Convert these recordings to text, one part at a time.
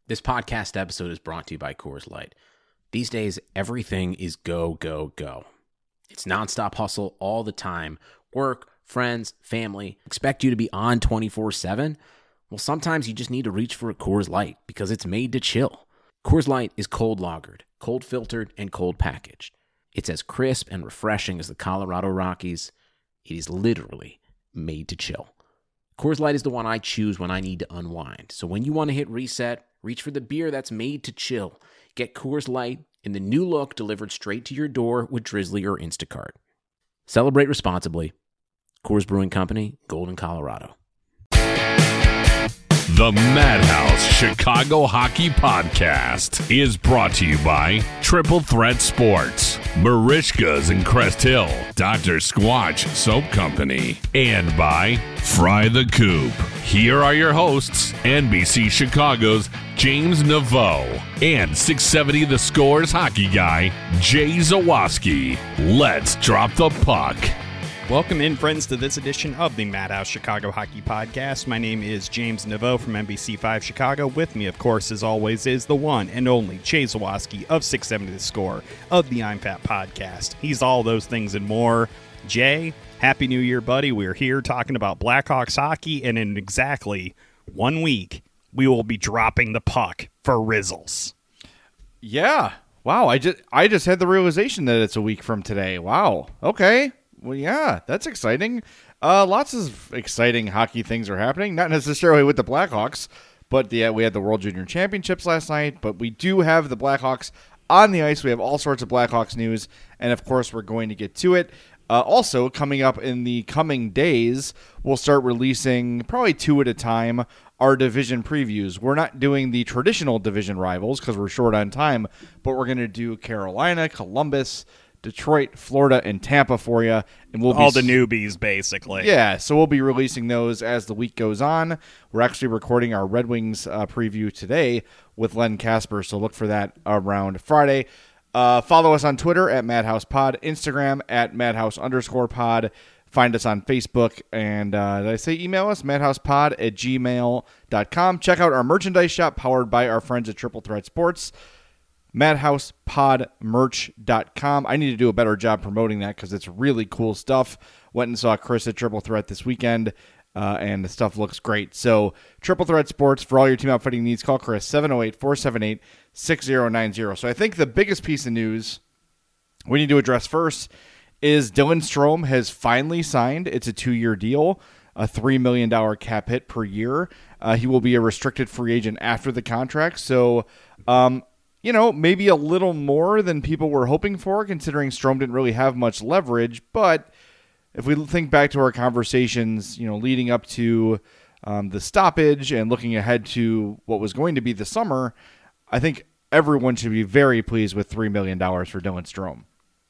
This podcast episode is brought to you by Coors Light. These days, everything is go, go, go. It's nonstop hustle all the time. Work, friends, family expect you to be on 24/7. Well, sometimes you just need to reach for a Coors Light because it's made to chill. Coors Light is cold lagered, cold filtered, and cold packaged. It's as crisp and refreshing as the Colorado Rockies. It is literally made to chill. Coors Light is the one I choose when I need to unwind. So when you want to hit reset, reach for the beer that's made to chill. Get Coors Light in the new look delivered straight to your door with Drizzly or Instacart. Celebrate responsibly. Coors Brewing Company, Golden, Colorado. The Madhouse Chicago Hockey Podcast is brought to you by Triple Threat Sports, Marishka's in Crest Hill, Dr. Squatch Soap Company, and by Fry the Coop. Here are your hosts, NBC Chicago's James Naveau and 670 The Score's hockey guy, Jay Zawaski. Let's drop the puck. Welcome in, friends, to this edition of the Madhouse Chicago Hockey Podcast. My name is James Naveau from NBC5 Chicago. With me, of course, as always, is the one and only Jay Zawaski of 670 The Score of the I'm Fat Podcast. He's all those things and more. Jay, Happy New Year, buddy. We're here talking about Blackhawks hockey, and in exactly 1 week, we will be dropping the puck for Rizzles. Yeah. Wow. I just had the realization that it's a week from today. Wow. Okay. Well, yeah, that's exciting. Lots of exciting hockey things are happening. Not necessarily with the Blackhawks, but we had the World Junior Championships last night. But we do have the Blackhawks on the ice. We have all sorts of Blackhawks news, and of course, we're going to get to it. Also, coming up in the coming days, we'll start releasing, probably two at a time, our division previews. We're not doing the traditional division rivals because we're short on time, but we're going to do Carolina, Columbus, Detroit, Florida, and Tampa for you. And we'll all the newbies, basically. Yeah, so we'll be releasing those as the week goes on. We're actually recording our Red Wings preview today with Len Casper, so look for that around Friday. Follow us on Twitter at MadhousePod, Instagram at Madhouse_pod. Find us on Facebook, and did I say email us? MadhousePod@gmail.com. Check out our merchandise shop powered by our friends at Triple Threat Sports. MadhousePodMerch.com. I need to do a better job promoting that because it's really cool stuff. Went and saw Chris at Triple Threat this weekend, and the stuff looks great. So, Triple Threat Sports, for all your team outfitting needs, call Chris, 708-478-6090. So, I think the biggest piece of news we need to address first is Dylan Strome has finally signed. It's a 2-year deal, a $3 million cap hit per year. He will be a restricted free agent after the contract. So, maybe a little more than people were hoping for, considering Strome didn't really have much leverage. But if we think back to our conversations, leading up to the stoppage and looking ahead to what was going to be the summer, I think everyone should be very pleased with $3 million for Dylan Strome.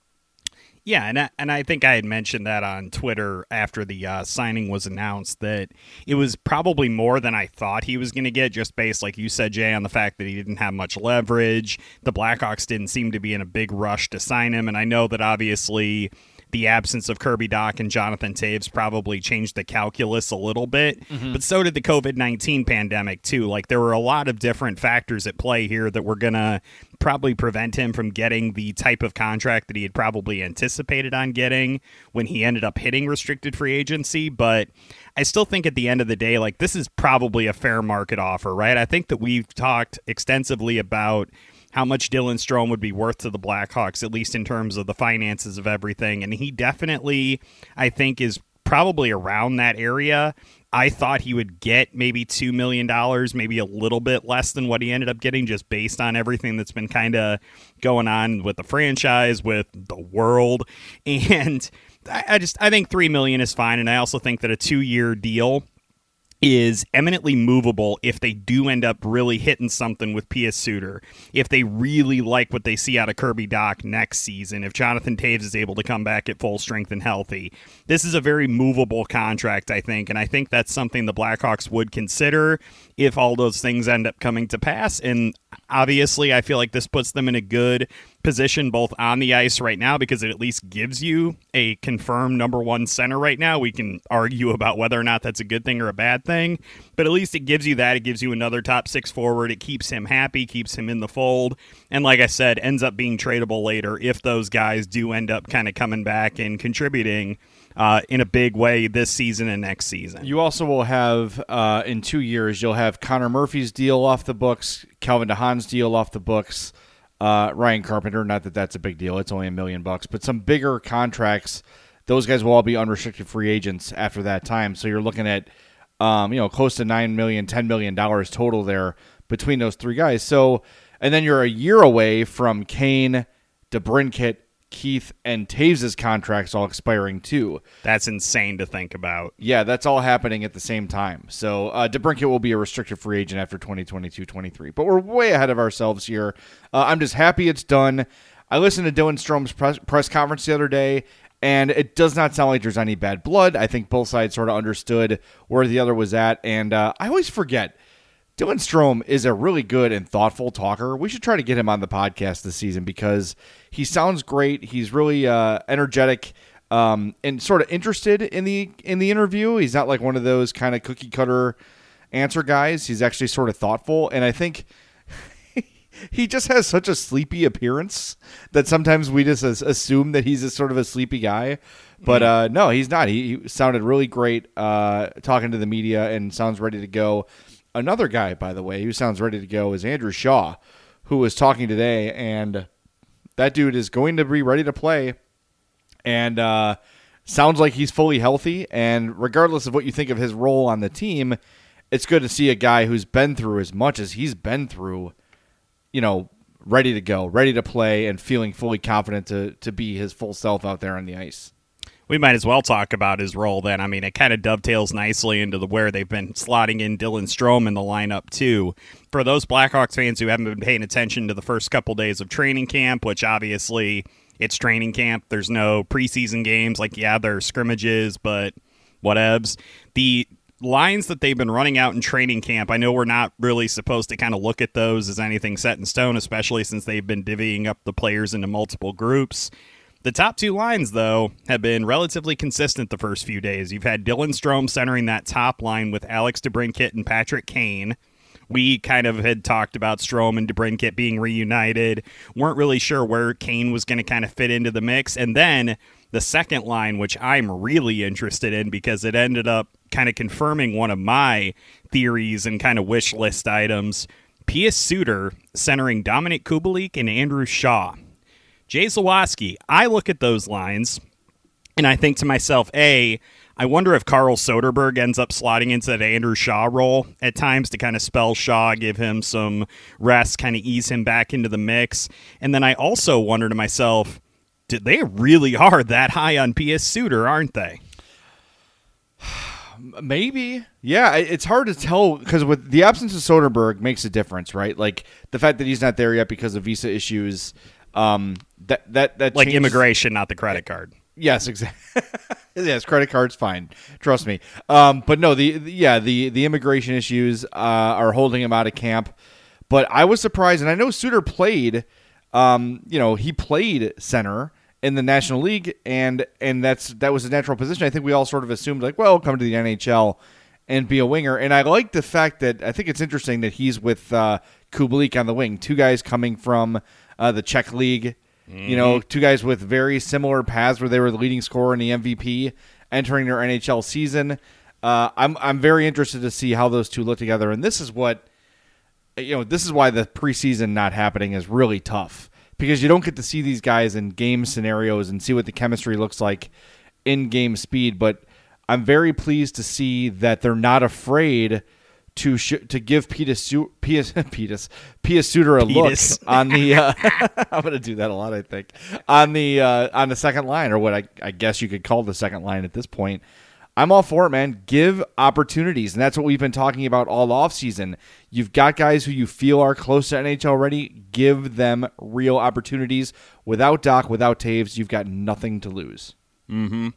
Yeah, and I think I had mentioned that on Twitter after the signing was announced, that it was probably more than I thought he was going to get, just based, like you said, Jay, on the fact that he didn't have much leverage. The Blackhawks didn't seem to be in a big rush to sign him, and I know that obviously the absence of Kirby Dach and Jonathan Toews probably changed the calculus a little bit, but so did the COVID-19 pandemic too. Like, there were a lot of different factors at play here that were going to probably prevent him from getting the type of contract that he had probably anticipated on getting when he ended up hitting restricted free agency. But I still think at the end of the day, like, this is probably a fair market offer, right? I think that we've talked extensively about how much Dylan Strome would be worth to the Blackhawks, at least in terms of the finances of everything. And he definitely, I think, is probably around that area. I thought he would get maybe $2 million, maybe a little bit less than what he ended up getting, just based on everything that's been kind of going on with the franchise, with the world. And I think $3 million is fine. And I also think that a 2-year deal is eminently movable if they do end up really hitting something with Pius Suter, if they really like what they see out of Kirby Dach next season, if Jonathan Toews is able to come back at full strength and healthy. This is a very movable contract, I think, and I think that's something the Blackhawks would consider if all those things end up coming to pass. And Obviously, I feel like this puts them in a good position both on the ice right now because it at least gives you a confirmed number one center right now. We can argue about whether or not that's a good thing or a bad thing, but at least it gives you that. It gives you another top six forward. It keeps him happy, keeps him in the fold, and like I said, ends up being tradable later if those guys do end up kind of coming back and contributing in a big way this season and next season. You also will have, in 2 years, you'll have Connor Murphy's deal off the books, Calvin DeHaan's deal off the books, Ryan Carpenter, not that that's a big deal, it's only $1 million, but some bigger contracts, those guys will all be unrestricted free agents after that time. So you're looking at, close to $9 million, $10 million total there between those three guys. So, and then you're a year away from Kane, DeBrincat, Keith, and Taves' contracts all expiring too. That's insane to think about. Yeah, that's all happening at the same time. So DeBrincat will be a restricted free agent after 2022-23. But we're way ahead of ourselves here. I'm just happy it's done. I listened to Dylan Strome's press conference the other day, and it does not sound like there's any bad blood. I think both sides sort of understood where the other was at. And I always forget, Dylan Strome is a really good and thoughtful talker. We should try to get him on the podcast this season because he sounds great. He's really energetic and sort of interested in the interview. He's not like one of those kind of cookie cutter answer guys. He's actually sort of thoughtful, and I think he just has such a sleepy appearance that sometimes we just assume that he's a sort of a sleepy guy. But no, he's not. He sounded really great talking to the media and sounds ready to go. Another guy, by the way, who sounds ready to go is Andrew Shaw, who was talking today, and that dude is going to be ready to play and sounds like he's fully healthy. And regardless of what you think of his role on the team, it's good to see a guy who's been through as much as he's been through, ready to go, ready to play, and feeling fully confident to be his full self out there on the ice. We might as well talk about his role then. I mean, it kind of dovetails nicely into where they've been slotting in Dylan Strome in the lineup, too. For those Blackhawks fans who haven't been paying attention to the first couple days of training camp, which obviously it's training camp, there's no preseason games. There are scrimmages, but whatevs. The lines that they've been running out in training camp, I know we're not really supposed to kind of look at those as anything set in stone, especially since they've been divvying up the players into multiple groups. The top two lines, though, have been relatively consistent the first few days. You've had Dylan Strome centering that top line with Alex DeBrincat and Patrick Kane. We kind of had talked about Strome and DeBrincat being reunited. Weren't really sure where Kane was going to kind of fit into the mix. And then the second line, which I'm really interested in because it ended up kind of confirming one of my theories and kind of wish list items. Pius Suter centering Dominic Kubalik and Andrew Shaw. Jay Zawaski, I look at those lines, and I think to myself, I wonder if Carl Soderberg ends up slotting into that Andrew Shaw role at times to kind of spell Shaw, give him some rest, kind of ease him back into the mix. And then I also wonder to myself, they really are that high on Pius Suter, aren't they? Maybe. Yeah, it's hard to tell because with the absence of Soderberg makes a difference, right? Like the fact that he's not there yet because of visa issues. That like changes. Immigration, not the credit card. Yes, exactly. Yes, credit card's fine. Trust me. But no, the immigration issues are holding him out of camp. But I was surprised, and I know Suter played. He played center in the National League, and that was a natural position. I think we all sort of assumed come to the NHL and be a winger. And I like the fact that I think it's interesting that he's with Kubalik on the wing, two guys coming from the Czech League. Two guys with very similar paths where they were the leading scorer and the MVP entering their NHL season. I'm very interested to see how those two look together. And this is why the preseason not happening is really tough because you don't get to see these guys in game scenarios and see what the chemistry looks like in game speed. But I'm very pleased to see that they're not afraid to give Pius Suter a look on the I'm going to do that a lot, I think, on the second line, or what I guess you could call the second line at this point. I'm all for it, man. Give opportunities, and that's what we've been talking about all offseason. You've got guys who you feel are close to NHL ready. Give them real opportunities. Without Doc, without Taves, you've got nothing to lose. Mm-hmm.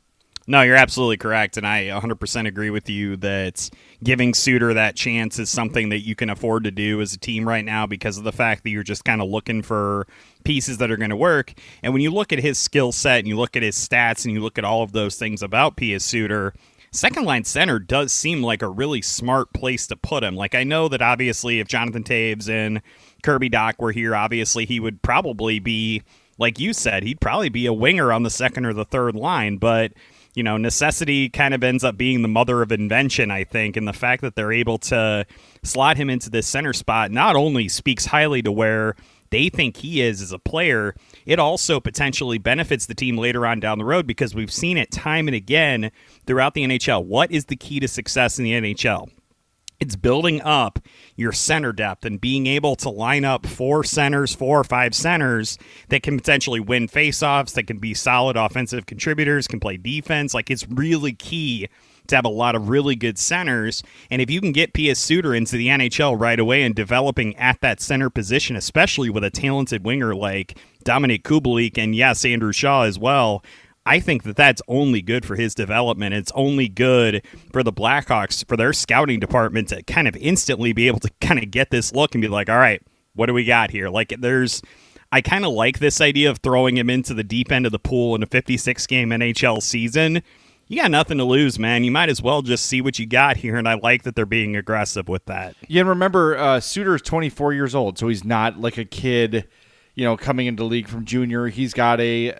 No, you're absolutely correct, and I 100% agree with you that giving Suter that chance is something that you can afford to do as a team right now because of the fact that you're just kind of looking for pieces that are going to work. And when you look at his skill set and you look at his stats and you look at all of those things about Pius Suter, second-line center does seem like a really smart place to put him. Like, I know that obviously if Jonathan Toews and Kirby Dach were here, obviously he would probably be, like you said, he'd probably be a winger on the second or the third line, but necessity kind of ends up being the mother of invention, I think, and the fact that they're able to slot him into this center spot not only speaks highly to where they think he is as a player, it also potentially benefits the team later on down the road because we've seen it time and again throughout the NHL. What is the key to success in the NHL? It's building up your center depth and being able to line up 4 or 5 centers that can potentially win faceoffs, that can be solid offensive contributors, can play defense. Like, it's really key to have a lot of really good centers. And if you can get Pius Suter into the NHL right away and developing at that center position, especially with a talented winger like Dominik Kubalik and, yes, Andrew Shaw as well, I think that that's only good for his development. It's only good for the Blackhawks, for their scouting department to kind of instantly be able to kind of get this look and be like, all right, what do we got here? Like, I kind of like this idea of throwing him into the deep end of the pool in a 56-game NHL season. You got nothing to lose, man. You might as well just see what you got here, and I like that they're being aggressive with that. Yeah, and remember, Suter's 24 years old, so he's not like a kid, coming into the league from junior. He's got an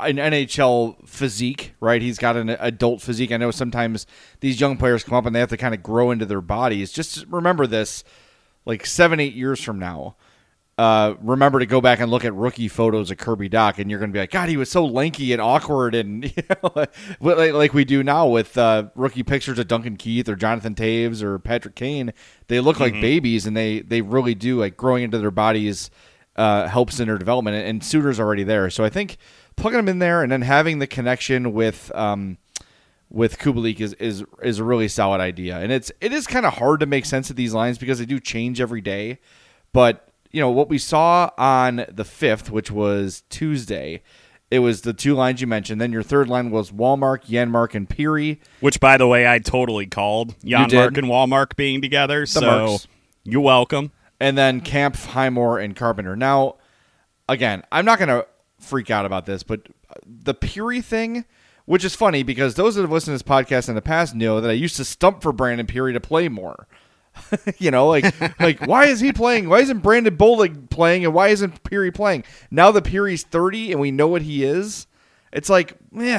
NHL physique, right? He's got an adult physique. I know sometimes these young players come up and they have to kind of grow into their bodies. Just remember this, like 7-8 years from now. Remember to go back and look at rookie photos of Kirby Dach, and you're going to be like, God, he was so lanky and awkward, and like we do now with rookie pictures of Duncan Keith or Jonathan Toews or Patrick Kane. They look like babies, and they really do, like, growing into their bodies helps in their development, and Suter's already there. So I think plugging him in there and then having the connection with Kubalik is a really solid idea. And it is kind of hard to make sense of these lines because they do change every day. But what we saw on the 5th, which was Tuesday, it was the 2 lines you mentioned. Then your third line was Wallmark, Janmark, and Peary. Which, by the way, I totally called Janmark and Wallmark being together. So you're welcome. And then Kampf, Highmore, and Carpenter. Now, again, I'm not going to freak out about this, but the Peary thing, which is funny because those that have listened to this podcast in the past know that I used to stump for Brandon Peary to play more. like why is he playing? Why isn't Brandon Bollig playing, and why isn't Peary playing? Now that Peary's 30 and we know what he is, it's like,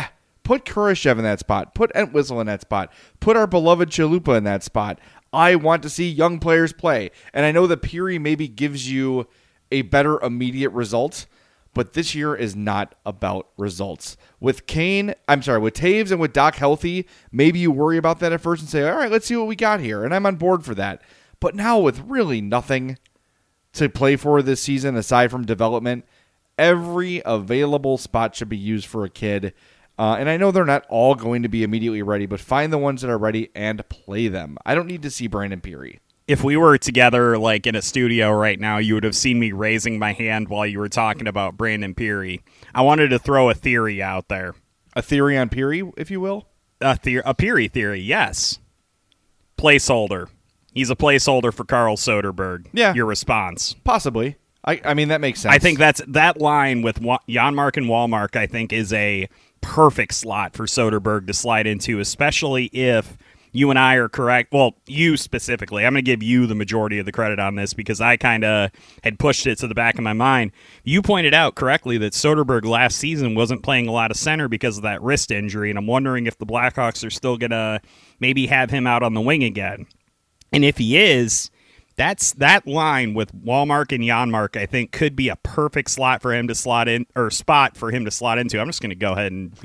put Kurashev in that spot, put Entwistle in that spot, put our beloved Chalupa in that spot. I want to see young players play, and I know that Peary maybe gives you a better immediate result, but this year is not about results. With Toews and with Dach healthy, maybe you worry about that at first and say, all right, let's see what we got here, and I'm on board for that. But now with really nothing to play for this season aside from development, every available spot should be used for a kid. And I know they're not all going to be immediately ready, but find the ones that are ready and play them. I don't need to see Brandon Peary. If we were together, like in a studio right now, you would have seen me raising my hand while you were talking about Brandon Peary. I wanted to throw a theory out there. A theory on Peary, if you will? A Peary theory, yes. Placeholder. He's a placeholder for Carl Soderberg. Yeah. Your response? Possibly. I mean, that makes sense. I think that line with Janmark and Wallmark, I think, is a perfect slot for Soderberg to slide into, especially if you and I are correct. Well, you specifically. I'm going to give you the majority of the credit on this because I kind of had pushed it to the back of my mind. You pointed out correctly that Soderberg last season wasn't playing a lot of center because of that wrist injury, and I'm wondering if the Blackhawks are still going to maybe have him out on the wing again. And if he is, that line with Wallmark and Janmark, I think, could be a perfect slot for him to slot in, or spot for him to slot into. I'm just going to go ahead and,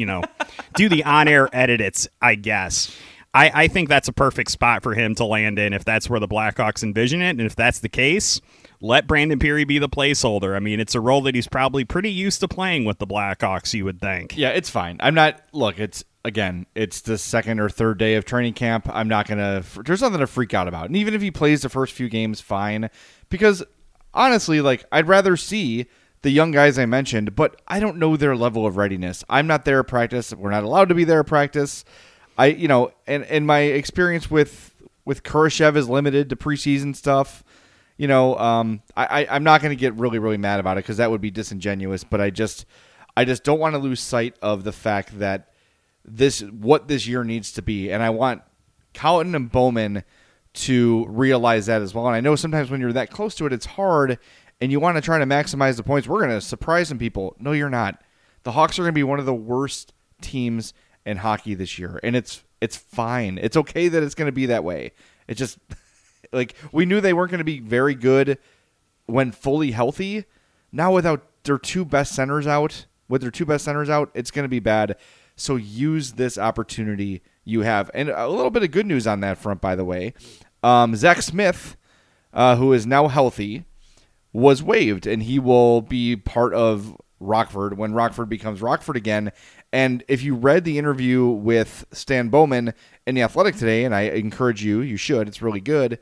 do the on-air edits, I guess. I think that's a perfect spot for him to land in if that's where the Blackhawks envision it. And if that's the case, let Brandon Peary be the placeholder. I mean, it's a role that he's probably pretty used to playing with the Blackhawks, you would think. Yeah, it's fine. It's the second or third day of training camp. I'm not going to, there's nothing to freak out about. And even if he plays the first few games, fine. Because honestly, I'd rather see the young guys I mentioned, but I don't know their level of readiness. I'm not there at practice. We're not allowed to be there at practice. And my experience with Kurashev is limited to preseason stuff. I'm not going to get really, really mad about it because that would be disingenuous. But I just don't want to lose sight of the fact that what this year needs to be, and I want Colliton and Bowman to realize that as well. And I know sometimes when you're that close to it, it's hard, and you want to try to maximize the points. We're going to surprise some people. No, you're not. The Hawks are going to be one of the worst teams in hockey this year, and it's fine. It's okay that it's going to be that way. It's just like we knew they weren't going to be very good when fully healthy. Now without their two best centers out, it's going to be bad. So use this opportunity you have. And a little bit of good news on that front, by the way. Zach Smith, who is now healthy, was waived, and he will be part of Rockford when Rockford becomes Rockford again. And if you read the interview with Stan Bowman in The Athletic today, and I encourage you should, it's really good,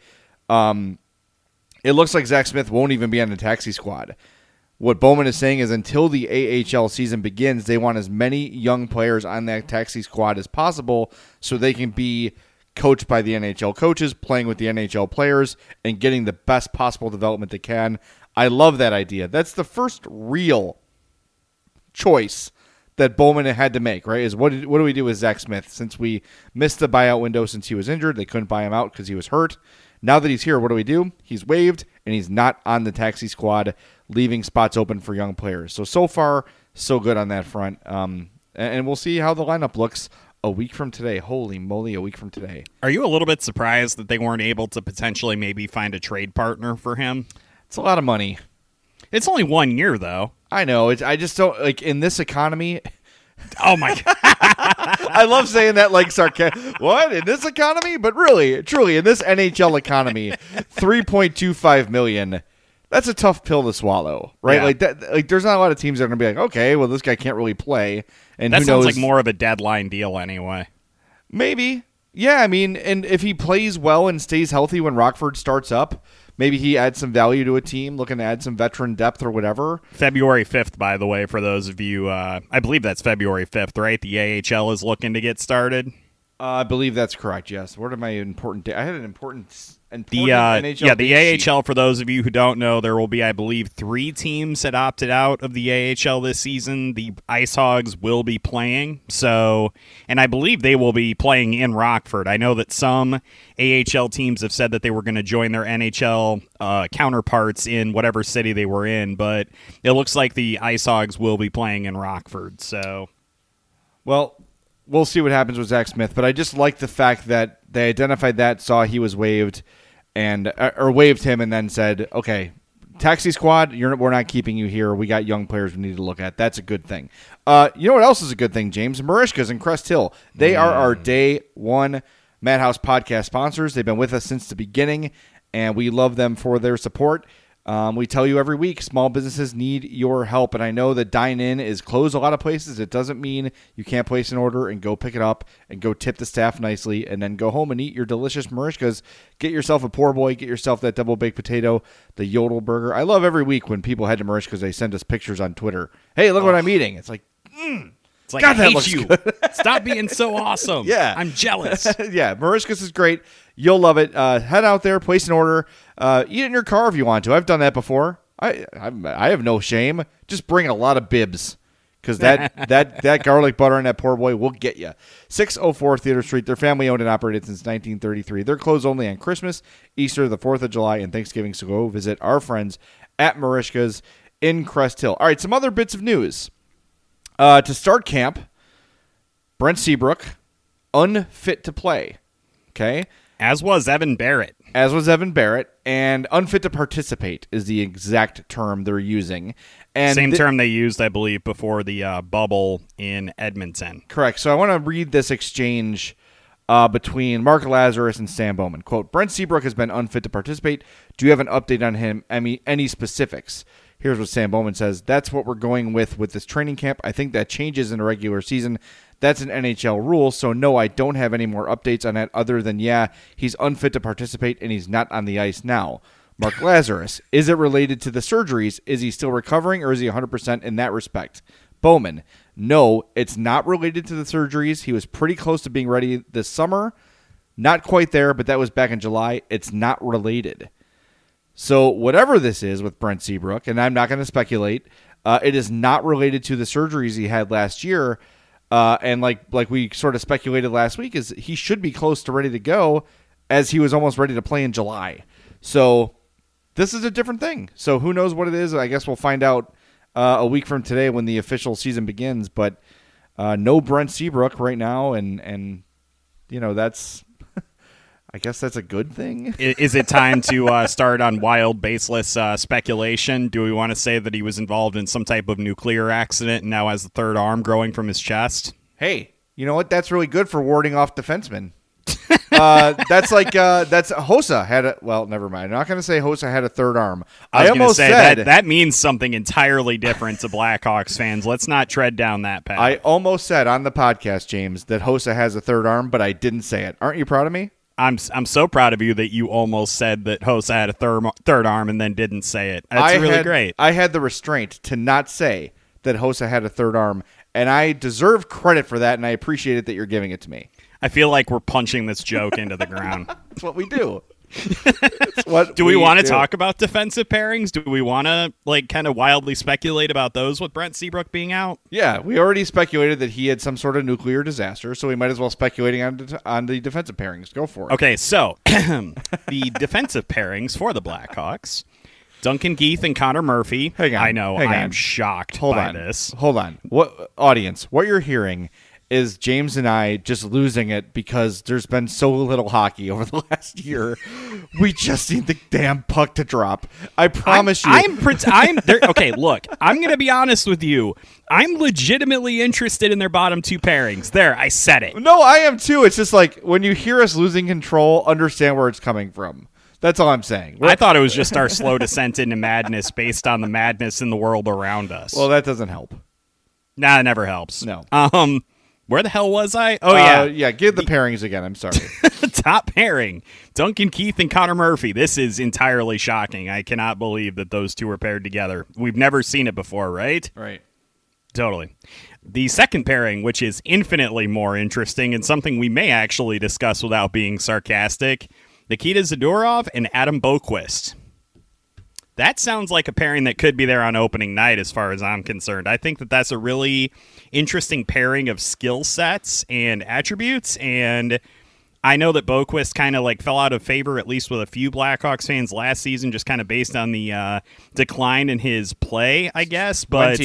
it looks like Zach Smith won't even be on the taxi squad. What Bowman is saying is until the AHL season begins, they want as many young players on that taxi squad as possible so they can be coached by the NHL coaches, playing with the NHL players, and getting the best possible development they can. I love that idea. That's the first real choice that Bowman had to make, right? Is what do we do with Zach Smith? Since we missed the buyout window since he was injured, they couldn't buy him out because he was hurt. Now that he's here, what do? He's waived, and he's not on the taxi squad, leaving spots open for young players. So far, so good on that front. And we'll see how the lineup looks a week from today. Holy moly, a week from today. Are you a little bit surprised that they weren't able to potentially maybe find a trade partner for him? It's a lot of money. It's only 1 year, though. I know. I just don't, like, in this economy... Oh, my God. I love saying that like sarcastic. What? In this economy? But really, truly, in this NHL economy, $3.25 million, that's a tough pill to swallow, right? Yeah. Like that. Like, there's not a lot of teams that are going to be like, okay, well, this guy can't really play. And that who sounds knows? like more of a deadline deal anyway. Maybe. Yeah, I mean, and if he plays well and stays healthy when Rockford starts up, maybe he adds some value to a team, looking to add some veteran depth or whatever. February 5th, by the way, for those of you, I believe that's February 5th, right? The AHL is looking to get started. I believe that's correct, yes. What are my important dates? I had an important NHL the date AHL, for those of you who don't know, there will be, I believe, 3 teams that opted out of the AHL this season. The Ice Hogs will be playing, and I believe they will be playing in Rockford. I know that some AHL teams have said that they were going to join their NHL counterparts in whatever city they were in, but it looks like the Ice Hogs will be playing in Rockford. So, well, we'll see what happens with Zach Smith, but I just like the fact that they identified that, saw he was waived, or waived him, and then said, okay, taxi squad, we're not keeping you here. We got young players we need to look at. That's a good thing. You know what else is a good thing, James? Marishkas and Crest Hill. They are our day one Madhouse podcast sponsors. They've been with us since the beginning, and we love them for their support. We tell you every week, small businesses need your help, and I know that dine-in is closed a lot of places. It doesn't mean you can't place an order and go pick it up and go tip the staff nicely and then go home and eat your delicious Marishkas. Get yourself a poor boy, get yourself that double baked potato, the Yodel burger. I love every week when people head to Marishkas, they send us pictures on Twitter. Hey, look what I'm eating. It's like, it's like, God, I that looks hate you. good. Stop being so awesome. Yeah. I'm jealous. Yeah, Marishkas is great. You'll love it. Head out there, place an order. Eat it in your car if you want to. I've done that before. I have no shame. Just bring a lot of bibs, because that garlic butter and that poor boy will get you. 604 Theater Street. They're family owned and operated since 1933. They're closed only on Christmas, Easter, the 4th of July, and Thanksgiving. So go visit our friends at Marishkas in Crest Hill. All right, some other bits of news. To start camp, Brent Seabrook, unfit to play. Okay. As was Evan Barrett. And unfit to participate is the exact term they're using. And same term they used, I believe, before the bubble in Edmonton. Correct. So I want to read this exchange between Mark Lazarus and Stan Bowman. Quote, Brent Seabrook has been unfit to participate. Do you have an update on him? Any specifics? Here's what Stan Bowman says. That's what we're going with this training camp. I think that changes in the regular season. That's an NHL rule, so no, I don't have any more updates on that other than, yeah, he's unfit to participate and he's not on the ice now. Mark Lazarus, is it related to the surgeries? Is he still recovering, or is he 100% in that respect? Bowman, no, it's not related to the surgeries. He was pretty close to being ready this summer. Not quite there, but that was back in July. It's not related. So whatever this is with Brent Seabrook, and I'm not going to speculate, it is not related to the surgeries he had last year. And like we sort of speculated last week, is he should be close to ready to go, as he was almost ready to play in July. So this is a different thing. So who knows what it is? I guess we'll find out a week from today when the official season begins. But no Brent Seabrook right now, and that's I guess that's a good thing. Is it time to start on wild, baseless speculation? Do we want to say that he was involved in some type of nuclear accident and now has the third arm growing from his chest? Hey, you know what? That's really good for warding off defensemen. That's Hossa had well, never mind. I'm not going to say Hossa had a third arm. I almost said that means something entirely different to Blackhawks fans. Let's not tread down that path. I almost said on the podcast, James, that Hossa has a third arm, but I didn't say it. Aren't you proud of me? I'm so proud of you that you almost said that Hossa had a third arm and then didn't say it. That's really great. I had the restraint to not say that Hossa had a third arm, and I deserve credit for that, and I appreciate it that you're giving it to me. I feel like we're punching this joke into the ground. That's what we do. Do we want to talk about defensive pairings? Do we want to kind of wildly speculate about those with Brent Seabrook being out? Yeah, we already speculated that he had some sort of nuclear disaster, so we might as well speculating on the defensive pairings. Go for it. Okay, so the defensive pairings for the Blackhawks: Duncan Keith and Connor Murphy. Hang on, I know, I am shocked by this. Hold on. What audience? What you're hearing is James and I just losing it because there's been so little hockey over the last year. We just need the damn puck to drop. I promise you. I'm there. Okay, look, I'm going to be honest with you. I'm legitimately interested in their bottom two pairings. There, I said it. No, I am too. It's just like when you hear us losing control, understand where it's coming from. That's all I'm saying. I thought it was just our slow descent into madness based on the madness in the world around us. Well, that doesn't help. Nah, it never helps. No. Where the hell was I? Oh, yeah. Yeah, give the pairings again. I'm sorry. Top pairing, Duncan Keith and Connor Murphy. This is entirely shocking. I cannot believe that those two were paired together. We've never seen it before, right? Right. Totally. The second pairing, which is infinitely more interesting and something we may actually discuss without being sarcastic, Nikita Zadorov and Adam Boqvist. That sounds like a pairing that could be there on opening night as far as I'm concerned. I think that that's a really interesting pairing of skill sets and attributes, and I know that Boqvist kind of fell out of favor, at least with a few Blackhawks fans last season, just kind of based on the decline in his play, I guess. But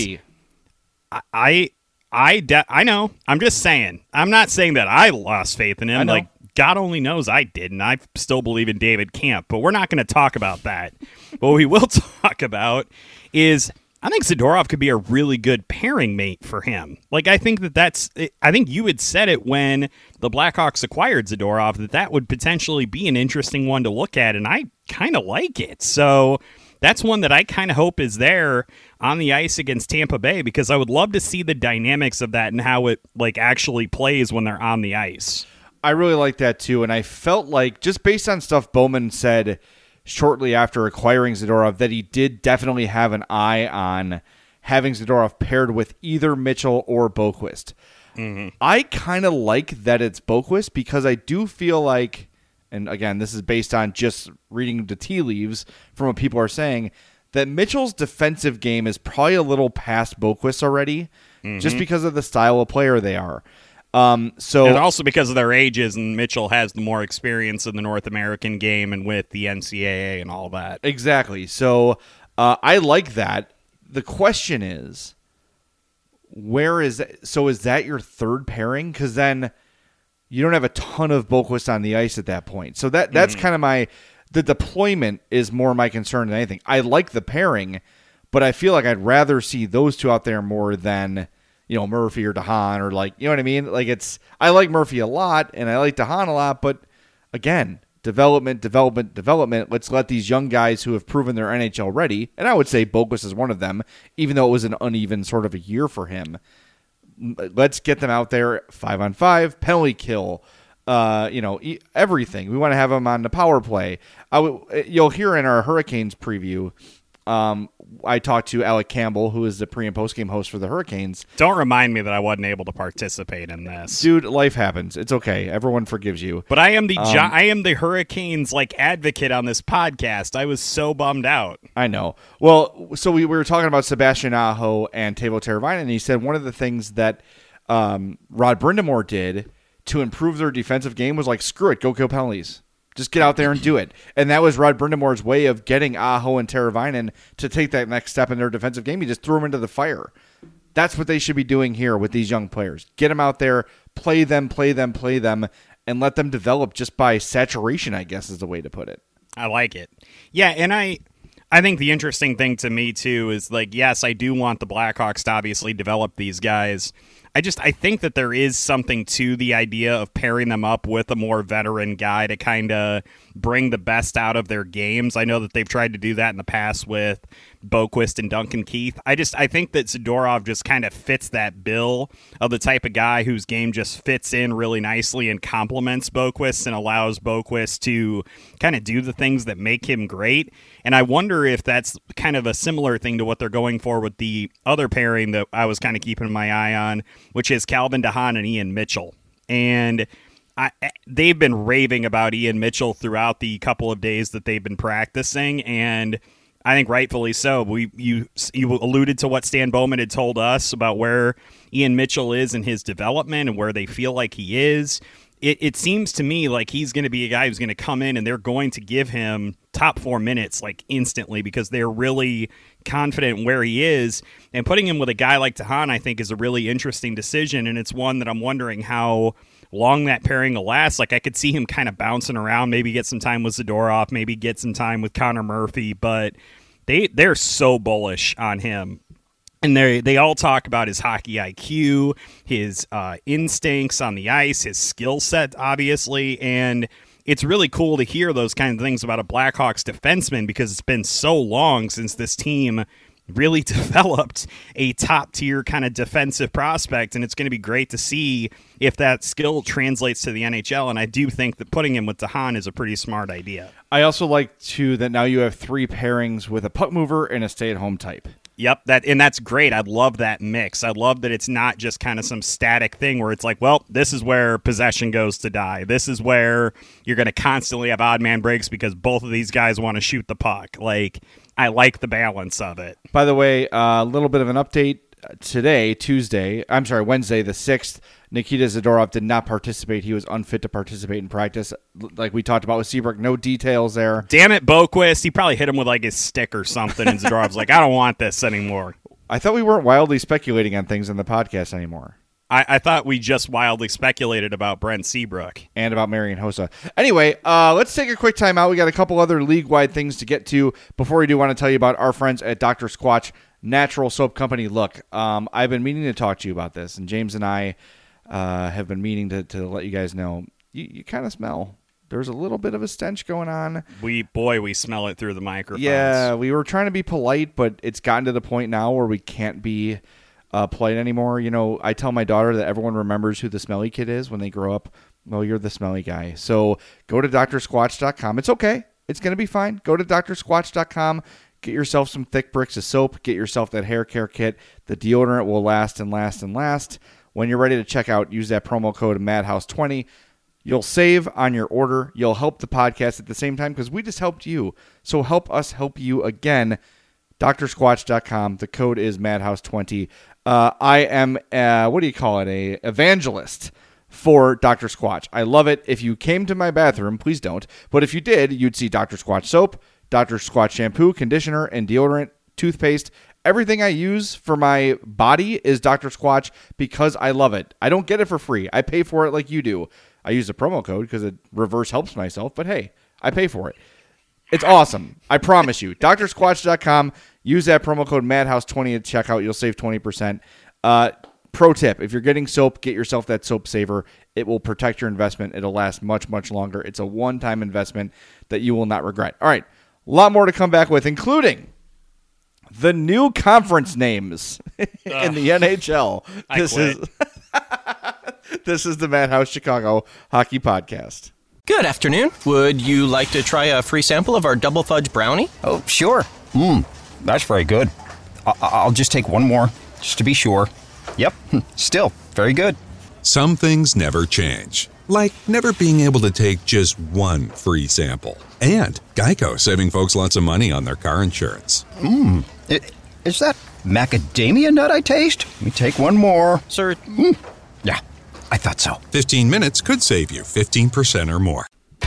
I know. I'm just saying. I'm not saying that I lost faith in him. God only knows I didn't. I still believe in David Camp, but we're not going to talk about that. What we will talk about is I think Zadorov could be a really good pairing mate for him. I think I think you had said it when the Blackhawks acquired Zadorov that would potentially be an interesting one to look at, and I kind of like it. So that's one that I kind of hope is there on the ice against Tampa Bay, because I would love to see the dynamics of that and how it actually plays when they're on the ice. I really like that too, and I felt like, just based on stuff Bowman said shortly after acquiring Zadorov, that he did definitely have an eye on having Zadorov paired with either Mitchell or Boqvist. Mm-hmm. I kind of like that it's Boqvist, because I do feel like, and again, this is based on just reading the tea leaves from what people are saying, that Mitchell's defensive game is probably a little past Boqvist already, just because of the style of player they are. And also because of their ages, and Mitchell has the more experience in the North American game and with the NCAA and all that. Exactly. So I like that. The question is, is that your third pairing? Because then you don't have a ton of Boqvist on the ice at that point. So that's kind of the deployment is more my concern than anything. I like the pairing, but I feel like I'd rather see those two out there more than Murphy or DeHaan, or you know what I mean? I like Murphy a lot and I like DeHaan a lot, but again, development. Let's let these young guys who have proven they're NHL ready, and I would say Boqvist is one of them, even though it was an uneven sort of a year for him. Let's get them out there 5-on-5, penalty kill, everything. We want to have him on the power play. You'll hear in our Hurricanes preview, I talked to Alec Campbell, who is the pre- and post-game host for the Hurricanes. Don't remind me that I wasn't able to participate in this. Dude, life happens. It's okay. Everyone forgives you. But I am the Hurricanes advocate on this podcast. I was so bummed out. I know. Well, so we were talking about Sebastian Aho and Teuvo Teravainen, and he said one of the things that Rod Brind'Amour did to improve their defensive game was like, screw it, go kill penalties. Just get out there and do it. And that was Rod Brind'Amour's way of getting Aho and Teravainen to take that next step in their defensive game. He just threw them into the fire. That's what they should be doing here with these young players. Get them out there, play them, and let them develop just by saturation, I guess is the way to put it. I like it. Yeah, and I think the interesting thing to me, too, is yes, I do want the Blackhawks to obviously develop these guys. I think that there is something to the idea of pairing them up with a more veteran guy to kind of bring the best out of their games. I know that they've tried to do that in the past with Boqvist and Duncan Keith. I think that Zadorov just kind of fits that bill of the type of guy whose game just fits in really nicely and complements Boqvist and allows Boqvist to kind of do the things that make him great. And I wonder if that's kind of a similar thing to what they're going for with the other pairing that I was kind of keeping my eye on, which is Calvin DeHaan and Ian Mitchell. And they've been raving about Ian Mitchell throughout the couple of days that they've been practicing, and I think rightfully so. You alluded to what Stan Bowman had told us about where Ian Mitchell is in his development and where they feel like he is. It seems to me like he's going to be a guy who's going to come in and they're going to give him top 4 minutes instantly because they're really confident in where he is. And putting him with a guy like DeHaan, I think, is a really interesting decision, and it's one that I'm wondering how long that pairing will last. I could see him kind of bouncing around, maybe get some time with Zadorov, maybe get some time with Connor Murphy, but they're so bullish on him. And they all talk about his hockey IQ, his instincts on the ice, his skill set, obviously. And it's really cool to hear those kind of things about a Blackhawks defenseman because it's been so long since this team really developed a top-tier kind of defensive prospect. And it's going to be great to see if that skill translates to the NHL. And I do think that putting him with DeHaan is a pretty smart idea. I also like, too, that now you have 3 pairings with a puck mover and a stay-at-home type. Yep, that's great. I love that mix. I love that it's not just kind of some static thing where it's like, well, this is where possession goes to die. This is where you're going to constantly have odd man breaks because both of these guys want to shoot the puck. I like the balance of it. By the way, a little bit of an update. Today, Wednesday the 6th, Nikita Zadorov did not participate. He was unfit to participate in practice. Like we talked about with Seabrook, no details there. Damn it, Boqvist. He probably hit him with his stick or something, and Zadorov's like, I don't want this anymore. I thought we weren't wildly speculating on things in the podcast anymore. I thought we just wildly speculated about Brent Seabrook. And about Marian Hossa. Anyway, let's take a quick time out. We got a couple other league-wide things to get to. Before we do, want to tell you about our friends at Dr. Squatch Natural Soap Company. Look, I've been meaning to talk to you about this, and James and I have been meaning to let you guys know. You kind of smell. There's a little bit of a stench going on. We smell it through the microphones. Yeah, we were trying to be polite, but it's gotten to the point now where we can't be polite anymore. I tell my daughter that everyone remembers who the smelly kid is when they grow up. Well, you're the smelly guy. So go to drsquatch.com. It's okay. It's going to be fine. Go to drsquatch.com. Get yourself some thick bricks of soap. Get yourself that hair care kit. The deodorant will last and last and last. When you're ready to check out, use that promo code MADHOUSE20. You'll save on your order. You'll help the podcast at the same time because we just helped you. So help us help you again. drsquatch.com. The code is MADHOUSE20. I am, a evangelist for Dr. Squatch. I love it. If you came to my bathroom, please don't. But if you did, you'd see Dr. Squatch soap, Dr. Squatch shampoo, conditioner, and deodorant, toothpaste. Everything I use for my body is Dr. Squatch because I love it. I don't get it for free. I pay for it like you do. I use the promo code because it reverse helps myself, but hey, I pay for it. It's awesome. I promise you. drsquatch.com. Use that promo code MADHOUSE20 at checkout. You'll save 20%. Pro tip, if you're getting soap, get yourself that Soap Saver. It will protect your investment. It'll last much, much longer. It's a one-time investment that you will not regret. All right, a lot more to come back with, including the new conference names in the NHL. This is the Madhouse Chicago Hockey Podcast. Good afternoon. Would you like to try a free sample of our double fudge brownie? Oh, sure. That's very good. I'll just take one more, just to be sure. Yep, still very good. Some things never change, like never being able to take just one free sample. And Geico saving folks lots of money on their car insurance. Is that macadamia nut I taste? Let me take one more. Sir, Yeah, I thought so. 15 minutes could save you 15% or more.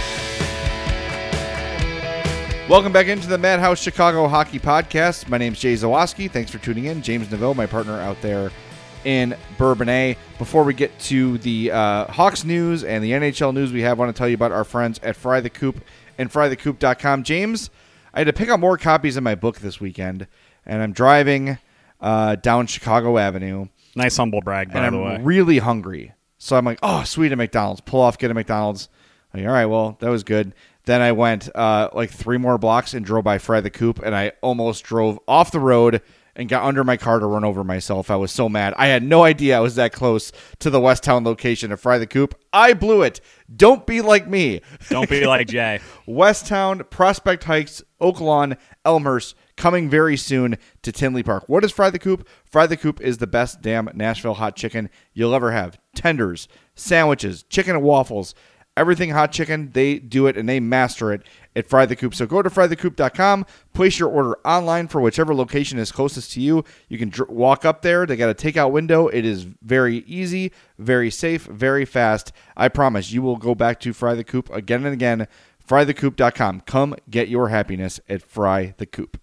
Welcome back into the Madhouse Chicago Hockey Podcast. My name's Jay Zawoski. Thanks for tuning in. James Neville, my partner out there in Bourbonnais. Before we get to the Hawks news and the NHL news we want to tell you about our friends at Fry the Coop and frythecoop.com. James, I had to pick up more copies of my book this weekend, and I'm driving down Chicago Avenue. Nice humble brag, by the way. I'm really hungry. So I'm like, oh, sweet, a McDonald's. Pull off, get a McDonald's. Like, all right, well, that was good. Then I went like 3 more blocks and drove by Fry the Coop, and I almost drove off the road and got under my car to run over myself. I was so mad. I had no idea I was that close to the Westtown location of Fry the Coop. I blew it. Don't be like me. Don't be like Jay. Westtown, Prospect Heights, Oak Lawn, Elmhurst, coming very soon to Tinley Park. What is Fry the Coop? Fry the Coop is the best damn Nashville hot chicken you'll ever have. Tenders, sandwiches, chicken and waffles, everything hot chicken. They do it and they master it at Fry the Coop. So go to frythecoop.com, place your order online for whichever location is closest to you. You can walk up there. They got a takeout window. It is very easy, very safe, very fast. I promise you will go back to Fry the Coop again and again. Frythecoop.com. Come get your happiness at Fry the Coop.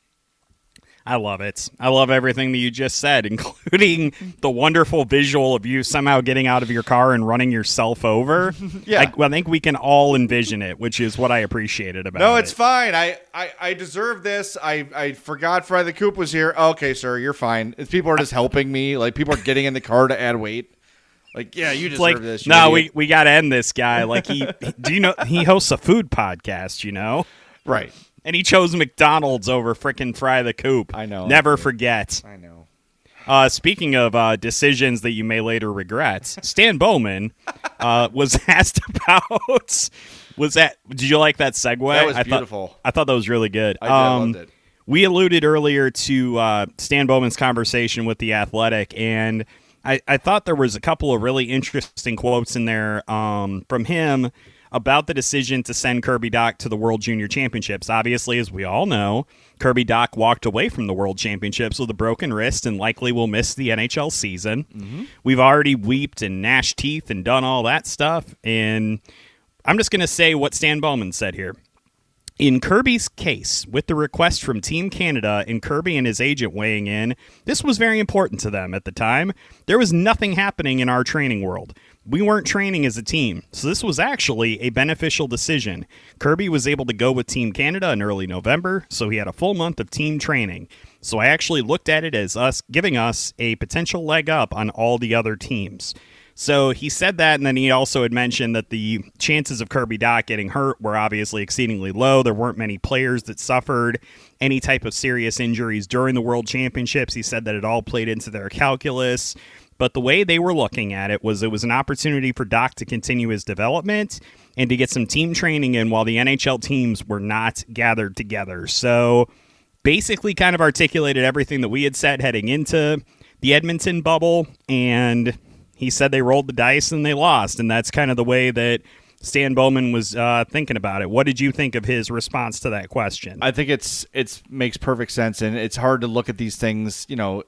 I love it. I love everything that you just said, including the wonderful visual of you somehow getting out of your car and running yourself over. Yeah. I think we can all envision it, which is what I appreciated about it. No, it's fine. I deserve this. I forgot Fry the Coop was here. Okay, sir, you're fine. People are just helping me. Like, people are getting in the car to add weight. Like, yeah, you deserve this. No, we got to end this guy. Like, do you know he hosts a food podcast, you know? Right. And he chose McDonald's over frickin' Fry the Coop. I know. Never forget. I know. Speaking of decisions that you may later regret, Stan Bowman was asked about. Did you like that segue? That was beautiful. I thought that was really good. I loved it. We alluded earlier to Stan Bowman's conversation with The Athletic, and I thought there was a couple of really interesting quotes in there from him about the decision to send Kirby Dach to the World Junior Championships. Obviously, as we all know, Kirby Dach walked away from the World Championships with a broken wrist and likely will miss the NHL season. Mm-hmm. We've already weeped and gnashed teeth and done all that stuff, and I'm just going to say what Stan Bowman said here. In Kirby's case, with the request from Team Canada and Kirby and his agent weighing in, this was very important to them at the time. There was nothing happening in our training world. We weren't training as a team, so this was actually a beneficial decision. Kirby was able to go with Team Canada in early November, so he had a full month of team training. So I actually looked at it as us giving us a potential leg up on all the other teams. So he said that, and then he also had mentioned that the chances of Kirby Dach getting hurt were obviously exceedingly low. There weren't many players that suffered any type of serious injuries during the World Championships. He said that it all played into their calculus. But the way they were looking at it was an opportunity for Dach to continue his development and to get some team training in while the NHL teams were not gathered together. So basically kind of articulated everything that we had said heading into the Edmonton bubble, and he said they rolled the dice and they lost, and that's kind of the way that Stan Bowman was thinking about it. What did you think of his response to that question? I think it makes perfect sense, and it's hard to look at these things. You know,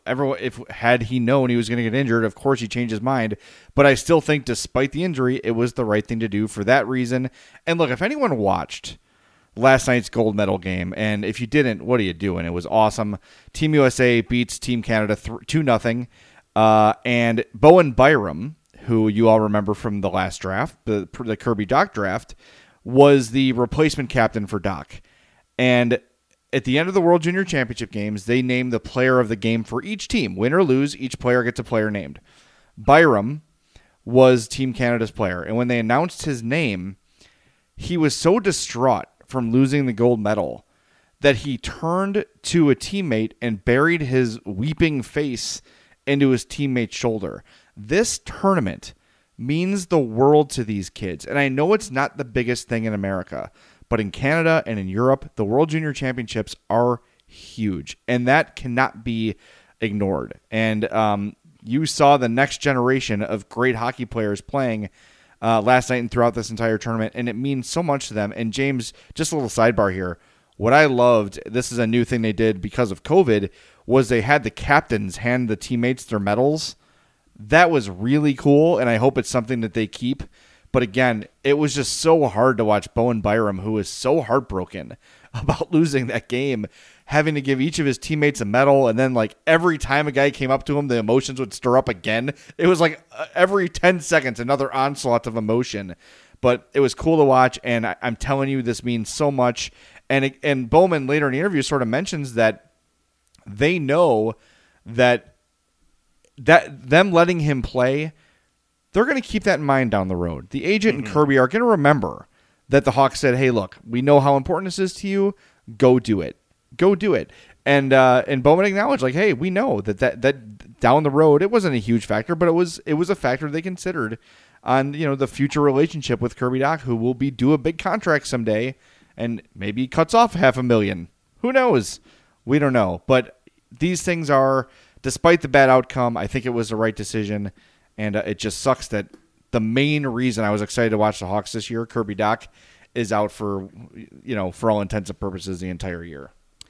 had he known he was going to get injured, of course he changed his mind. But I still think, despite the injury, it was the right thing to do for that reason. And look, if anyone watched last night's gold medal game, and if you didn't, what are you doing? It was awesome. Team USA beats Team Canada 2-0, and Bowen Byram, who you all remember from the last draft, the Kirby Dach draft, was the replacement captain for Dach. And at the end of the World Junior Championship games, they named the player of the game for each team. Win or lose, each player gets a player named. Byram was Team Canada's player. And when they announced his name, he was so distraught from losing the gold medal that he turned to a teammate and buried his weeping face into his teammate's shoulder. This tournament means the world to these kids. And I know it's not the biggest thing in America, but in Canada and in Europe, the World Junior Championships are huge, and that cannot be ignored. And you saw the next generation of great hockey players playing last night and throughout this entire tournament, and it means so much to them. And James, just a little sidebar here, what I loved, this is a new thing they did because of COVID, was they had the captains hand the teammates their medals. That was really cool, and I hope it's something that they keep. But again, it was just so hard to watch Bowen Byram, who was so heartbroken about losing that game, having to give each of his teammates a medal, and then like every time a guy came up to him, the emotions would stir up again. It was like every 10 seconds, another onslaught of emotion. But it was cool to watch, and I'm telling you, this means so much. And Bowman later in the interview sort of mentions that they know that them letting him play, they're going to keep that in mind down the road. The agent and Kirby are going to remember that the Hawks said, hey, look, we know how important this is to you. Go do it. Go do it. And Bowman acknowledged, like, hey, we know that down the road, it wasn't a huge factor, but it was a factor they considered on, the future relationship with Kirby Dach, who will be due a big contract someday, and maybe cuts off $500,000. Who knows? We don't know. But these things are, despite the bad outcome, I think it was the right decision. And it just sucks that the main reason I was excited to watch the Hawks this year, Kirby Dach, is out for all intents and purposes the entire year.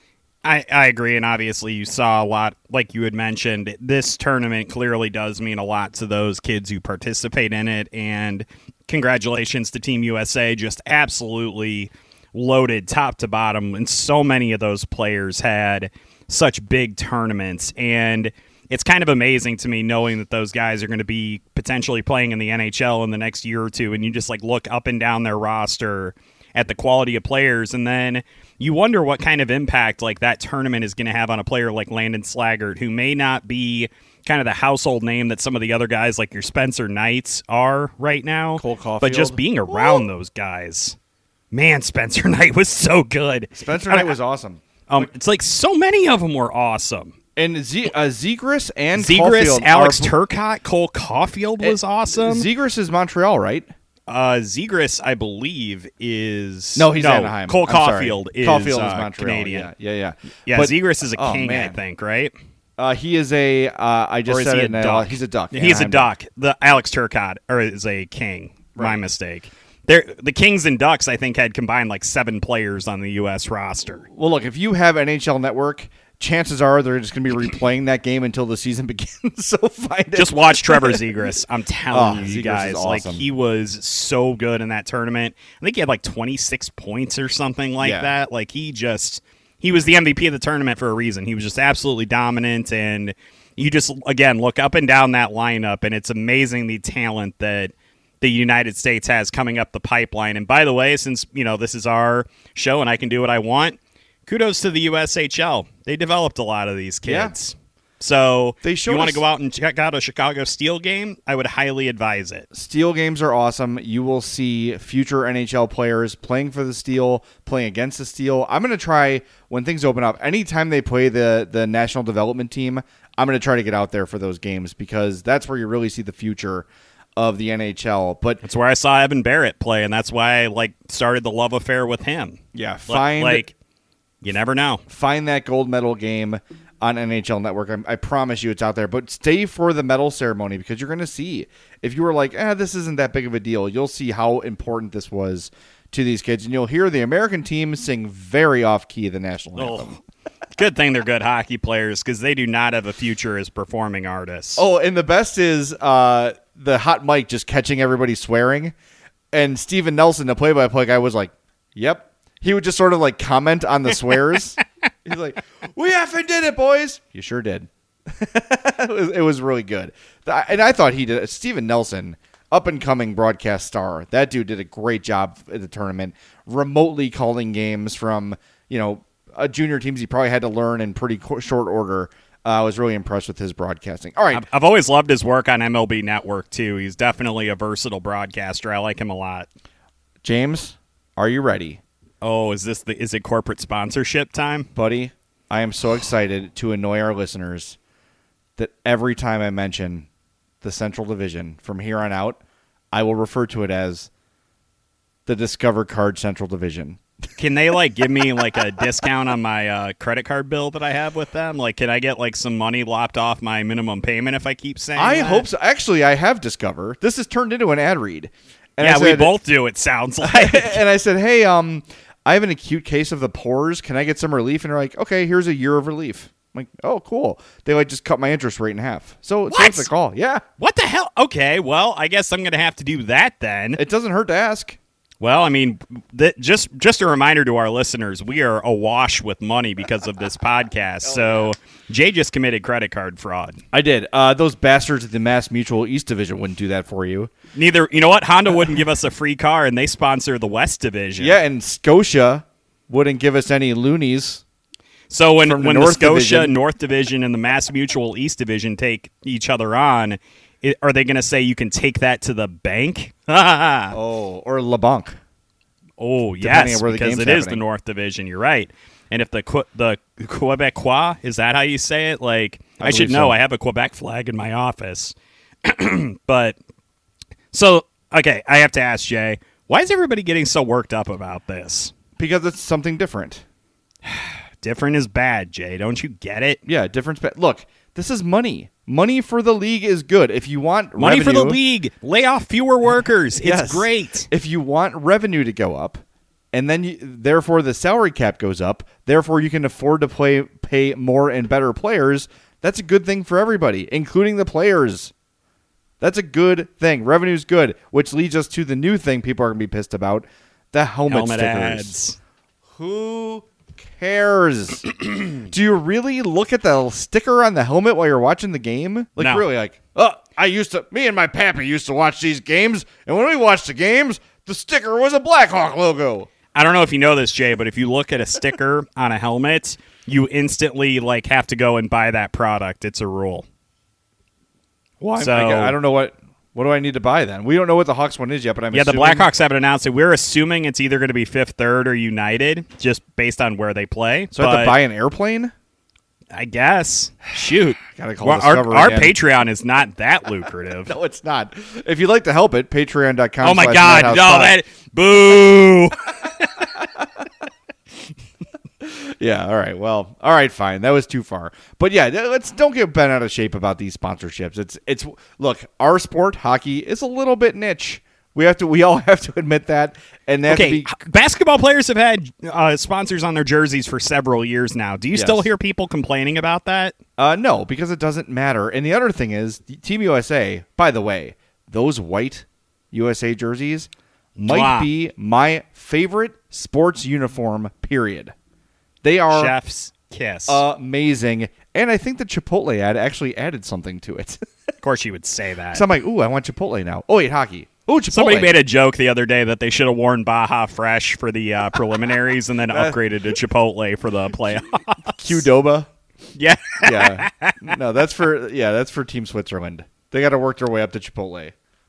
I agree, and obviously you saw a lot, like you had mentioned. This tournament clearly does mean a lot to those kids who participate in it, and congratulations to Team USA, just absolutely loaded top to bottom, and so many of those players had such big tournaments, and it's kind of amazing to me knowing that those guys are going to be potentially playing in the NHL in the next year or two, and you just like look up and down their roster at the quality of players, and then you wonder what kind of impact like that tournament is going to have on a player like Landon Slaggert, who may not be kind of the household name that some of the other guys like your Spencer Knights are right now. Cole Caulfield. But just being around those guys. Man, Spencer Knight was so good. Spencer Knight was awesome. It's like so many of them were awesome. And Zegras and Zegras, Caulfield, Alex Turcotte, Cole Caulfield was awesome. Zegras is Montreal, right? Zegras, I believe, is... No, he's Anaheim. Cole Caulfield is Montreal. Canadian. Yeah. Yeah, But, Zegras is a king, I think, right? He is a... I just Or is said he it a now. duck? He's a duck. He's a Anaheim duck. The Alex Turcotte is a king. Right. My mistake. The Kings and Ducks, I think, had combined like 7 players on the U.S. roster. Well, look, if you have NHL Network, chances are they're just going to be replaying that game until the season begins. So find it. Just watch Trevor Zegras. I'm telling you Zegras guys, is like awesome. he was so good in that tournament. I think he had like 26 points or something like that. Like he was the MVP of the tournament for a reason. He was just absolutely dominant, and you just again look up and down that lineup, and it's amazing the talent that the United States has coming up the pipeline. And by the way, since this is our show and I can do what I want, kudos to the USHL. They developed a lot of these kids. Yeah. So They if showed you want us- to go out and check out a Chicago Steel game, I would highly advise it. Steel games are awesome. You will see future NHL players playing for the Steel, playing against the Steel. I'm going to try, when things open up, anytime they play the national development team, I'm going to try to get out there for those games, because that's where you really see the future of the NHL. But That's where I saw Evan Barrett play, and that's why I started the love affair with him. yeah, You never know. find that gold medal game on NHL Network. I promise you it's out there. But stay for the medal ceremony, because you're going to see, if you were like, this isn't that big of a deal, you'll see how important this was to these kids. And you'll hear the American team sing very off-key the national anthem. Good thing they're good hockey players, because they do not have a future as performing artists. Oh, and the best is the hot mic just catching everybody swearing. And Steven Nelson, the play-by-play guy, was like, yep. He would just sort of comment on the swears. He's like, we effing did it, boys. You sure did. It was really good. And I thought he did. Steven Nelson, up-and-coming broadcast star. That dude did a great job at the tournament, remotely calling games from, junior teams he probably had to learn in pretty short order. I was really impressed with his broadcasting. All right. I've always loved his work on MLB Network, too. He's definitely a versatile broadcaster. I like him a lot. James, are you ready? Oh, is it corporate sponsorship time? Buddy, I am so excited to annoy our listeners that every time I mention the Central Division from here on out, I will refer to it as the Discover Card Central Division. Can they like give me like a discount on my credit card bill that I have with them? Like, can I get like some money lopped off my minimum payment if I keep saying I that? hope so. Actually, I have Discover. This has turned into an ad read. And Yeah, I we said- both do, it sounds like. And I said, hey, I have an acute case of the pores. Can I get some relief? And they're like, okay, here's a year of relief. I'm like, oh, cool. They like just cut my interest rate in half. So it's worth the call. Yeah. What the hell? Okay, well, I guess I'm going to have to do that then. It doesn't hurt to ask. Well, I mean, just a reminder to our listeners, we are awash with money because of this podcast. So Jay just committed credit card fraud. I did. Those bastards at the Mass Mutual East Division wouldn't do that for you. Neither, you know what? Honda wouldn't give us a free car, and they sponsor the West Division. Yeah, and Scotia wouldn't give us any loonies. So when from the the North Scotia Division. North Division and the Mass Mutual East Division take each other on, are they going to say you can take that to the bank? Oh, or LeBanc. Oh, Depending yes, on where the because game's it is the happening. North Division. You're right. And if the Quebecois, is that how you say it? Like, I should believe know. so. I have a Quebec flag in my office. But, so, okay, I have to ask Jay, why is everybody getting so worked up about this? Because it's something different. Different is bad, Jay. Don't you get it? Yeah, different. Look, this is money. Money for the league is good. If you want Money for the revenue- league. Lay off fewer workers. It's Yes. great. If you want revenue to go up, and then therefore the salary cap goes up, therefore you can afford to pay more and better players, that's a good thing for everybody, including the players. That's a good thing. Revenue's good, which leads us to the new thing people are going to be pissed about, the helmet stickers. ads. Who cares? Do you really look at the sticker on the helmet while you're watching the game? Like, No. really, like, me and my pappy used to watch these games, and when we watched the games, the sticker was a Blackhawk logo. I don't know if you know this, Jay, but if you look at a sticker on a helmet, you instantly like have to go and buy that product. It's a rule. Well, So- I don't know what do I need to buy then? We don't know what the Hawks one is yet, but I'm Yeah, the assuming- Blackhawks haven't announced it. We're assuming it's either going to be Fifth Third or United, just based on where they play. So I have to But buy an airplane? I guess. Shoot. Gotta call Well, Discover our again. Patreon is not that lucrative. No, it's not. If you'd like to help it, patreon.com. Oh my God! No, that boo. Yeah, all right. Well, all right, fine. That was too far. But yeah, don't get bent out of shape about these sponsorships. It's look, our sport, hockey, is a little bit niche. We all have to admit that. And that Okay, basketball players have had sponsors on their jerseys for several years now. Do you Yes. still hear people complaining about that? no, because it doesn't matter. And the other thing is, Team USA, by the way, those white USA jerseys might Mwah. be my favorite sports uniform, period. They are Chef's kiss. amazing. And I think the Chipotle ad actually added something to it. Of course, you would say that. So I'm like, ooh, I want Chipotle now. Oh, wait, hockey. Oh, Chipotle. Somebody made a joke the other day that they should have worn Baja Fresh for the preliminaries and then upgraded to Chipotle for the playoffs. Qdoba. Yeah. Yeah. No, that's for Team Switzerland. They got to work their way up to Chipotle.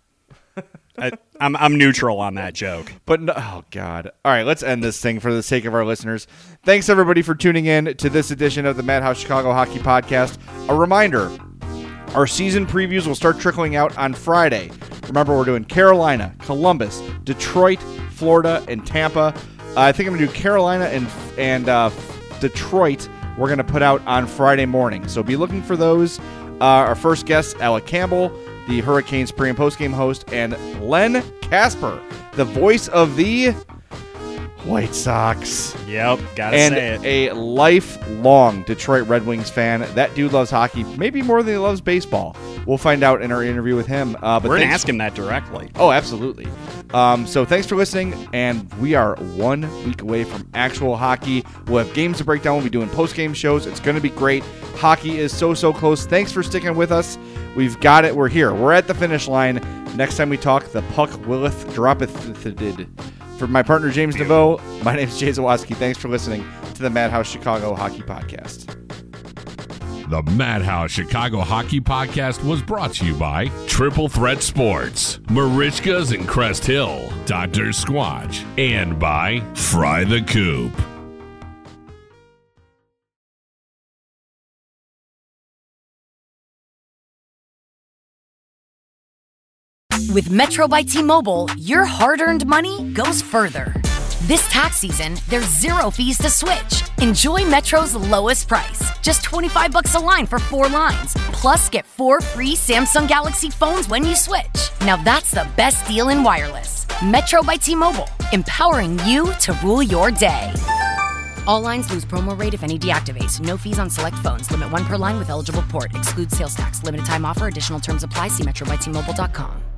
I'm neutral on that joke. But no, oh God. All right, let's end this thing for the sake of our listeners. Thanks everybody for tuning in to this edition of the Madhouse Chicago Hockey Podcast. A reminder, our season previews will start trickling out on Friday. Remember, we're doing Carolina, Columbus, Detroit, Florida, and Tampa. I think I'm going to do Carolina and Detroit. We're going to put out on Friday morning. So be looking for those. Our first guest, Alec Campbell, the Hurricanes pre- and post-game host, and Len Casper, the voice of the White Sox. Yep, gotta And say it. a lifelong Detroit Red Wings fan. That dude loves hockey, maybe more than he loves baseball. We'll find out in our interview with him. But We're going to thanks- ask him that directly. Oh, absolutely. So thanks for listening, and we are 1 week away from actual hockey. We'll have games to break down. We'll be doing post-game shows. It's going to be great. Hockey is so close. Thanks for sticking with us. We've got it. We're here. We're at the finish line. Next time we talk, the puck willeth droppeth did. For my partner, James DeVoe, my name is Jay Zawoski. Thanks for listening to the Madhouse Chicago Hockey Podcast. The Madhouse Chicago Hockey Podcast was brought to you by Triple Threat Sports, Marishka's in Crest Hill, Dr. Squatch, and by Fry the Coop. With Metro by T-Mobile, your hard-earned money goes further. This tax season, there's 0 fees to switch. Enjoy Metro's lowest price, just $25 a line for 4 lines. Plus, get 4 free Samsung Galaxy phones when you switch. Now that's the best deal in wireless. Metro by T-Mobile, empowering you to rule your day. All lines lose promo rate if any deactivates. No fees on select phones. Limit 1 per line with eligible port. Excludes sales tax. Limited time offer. Additional terms apply. See metrobytmobile.com.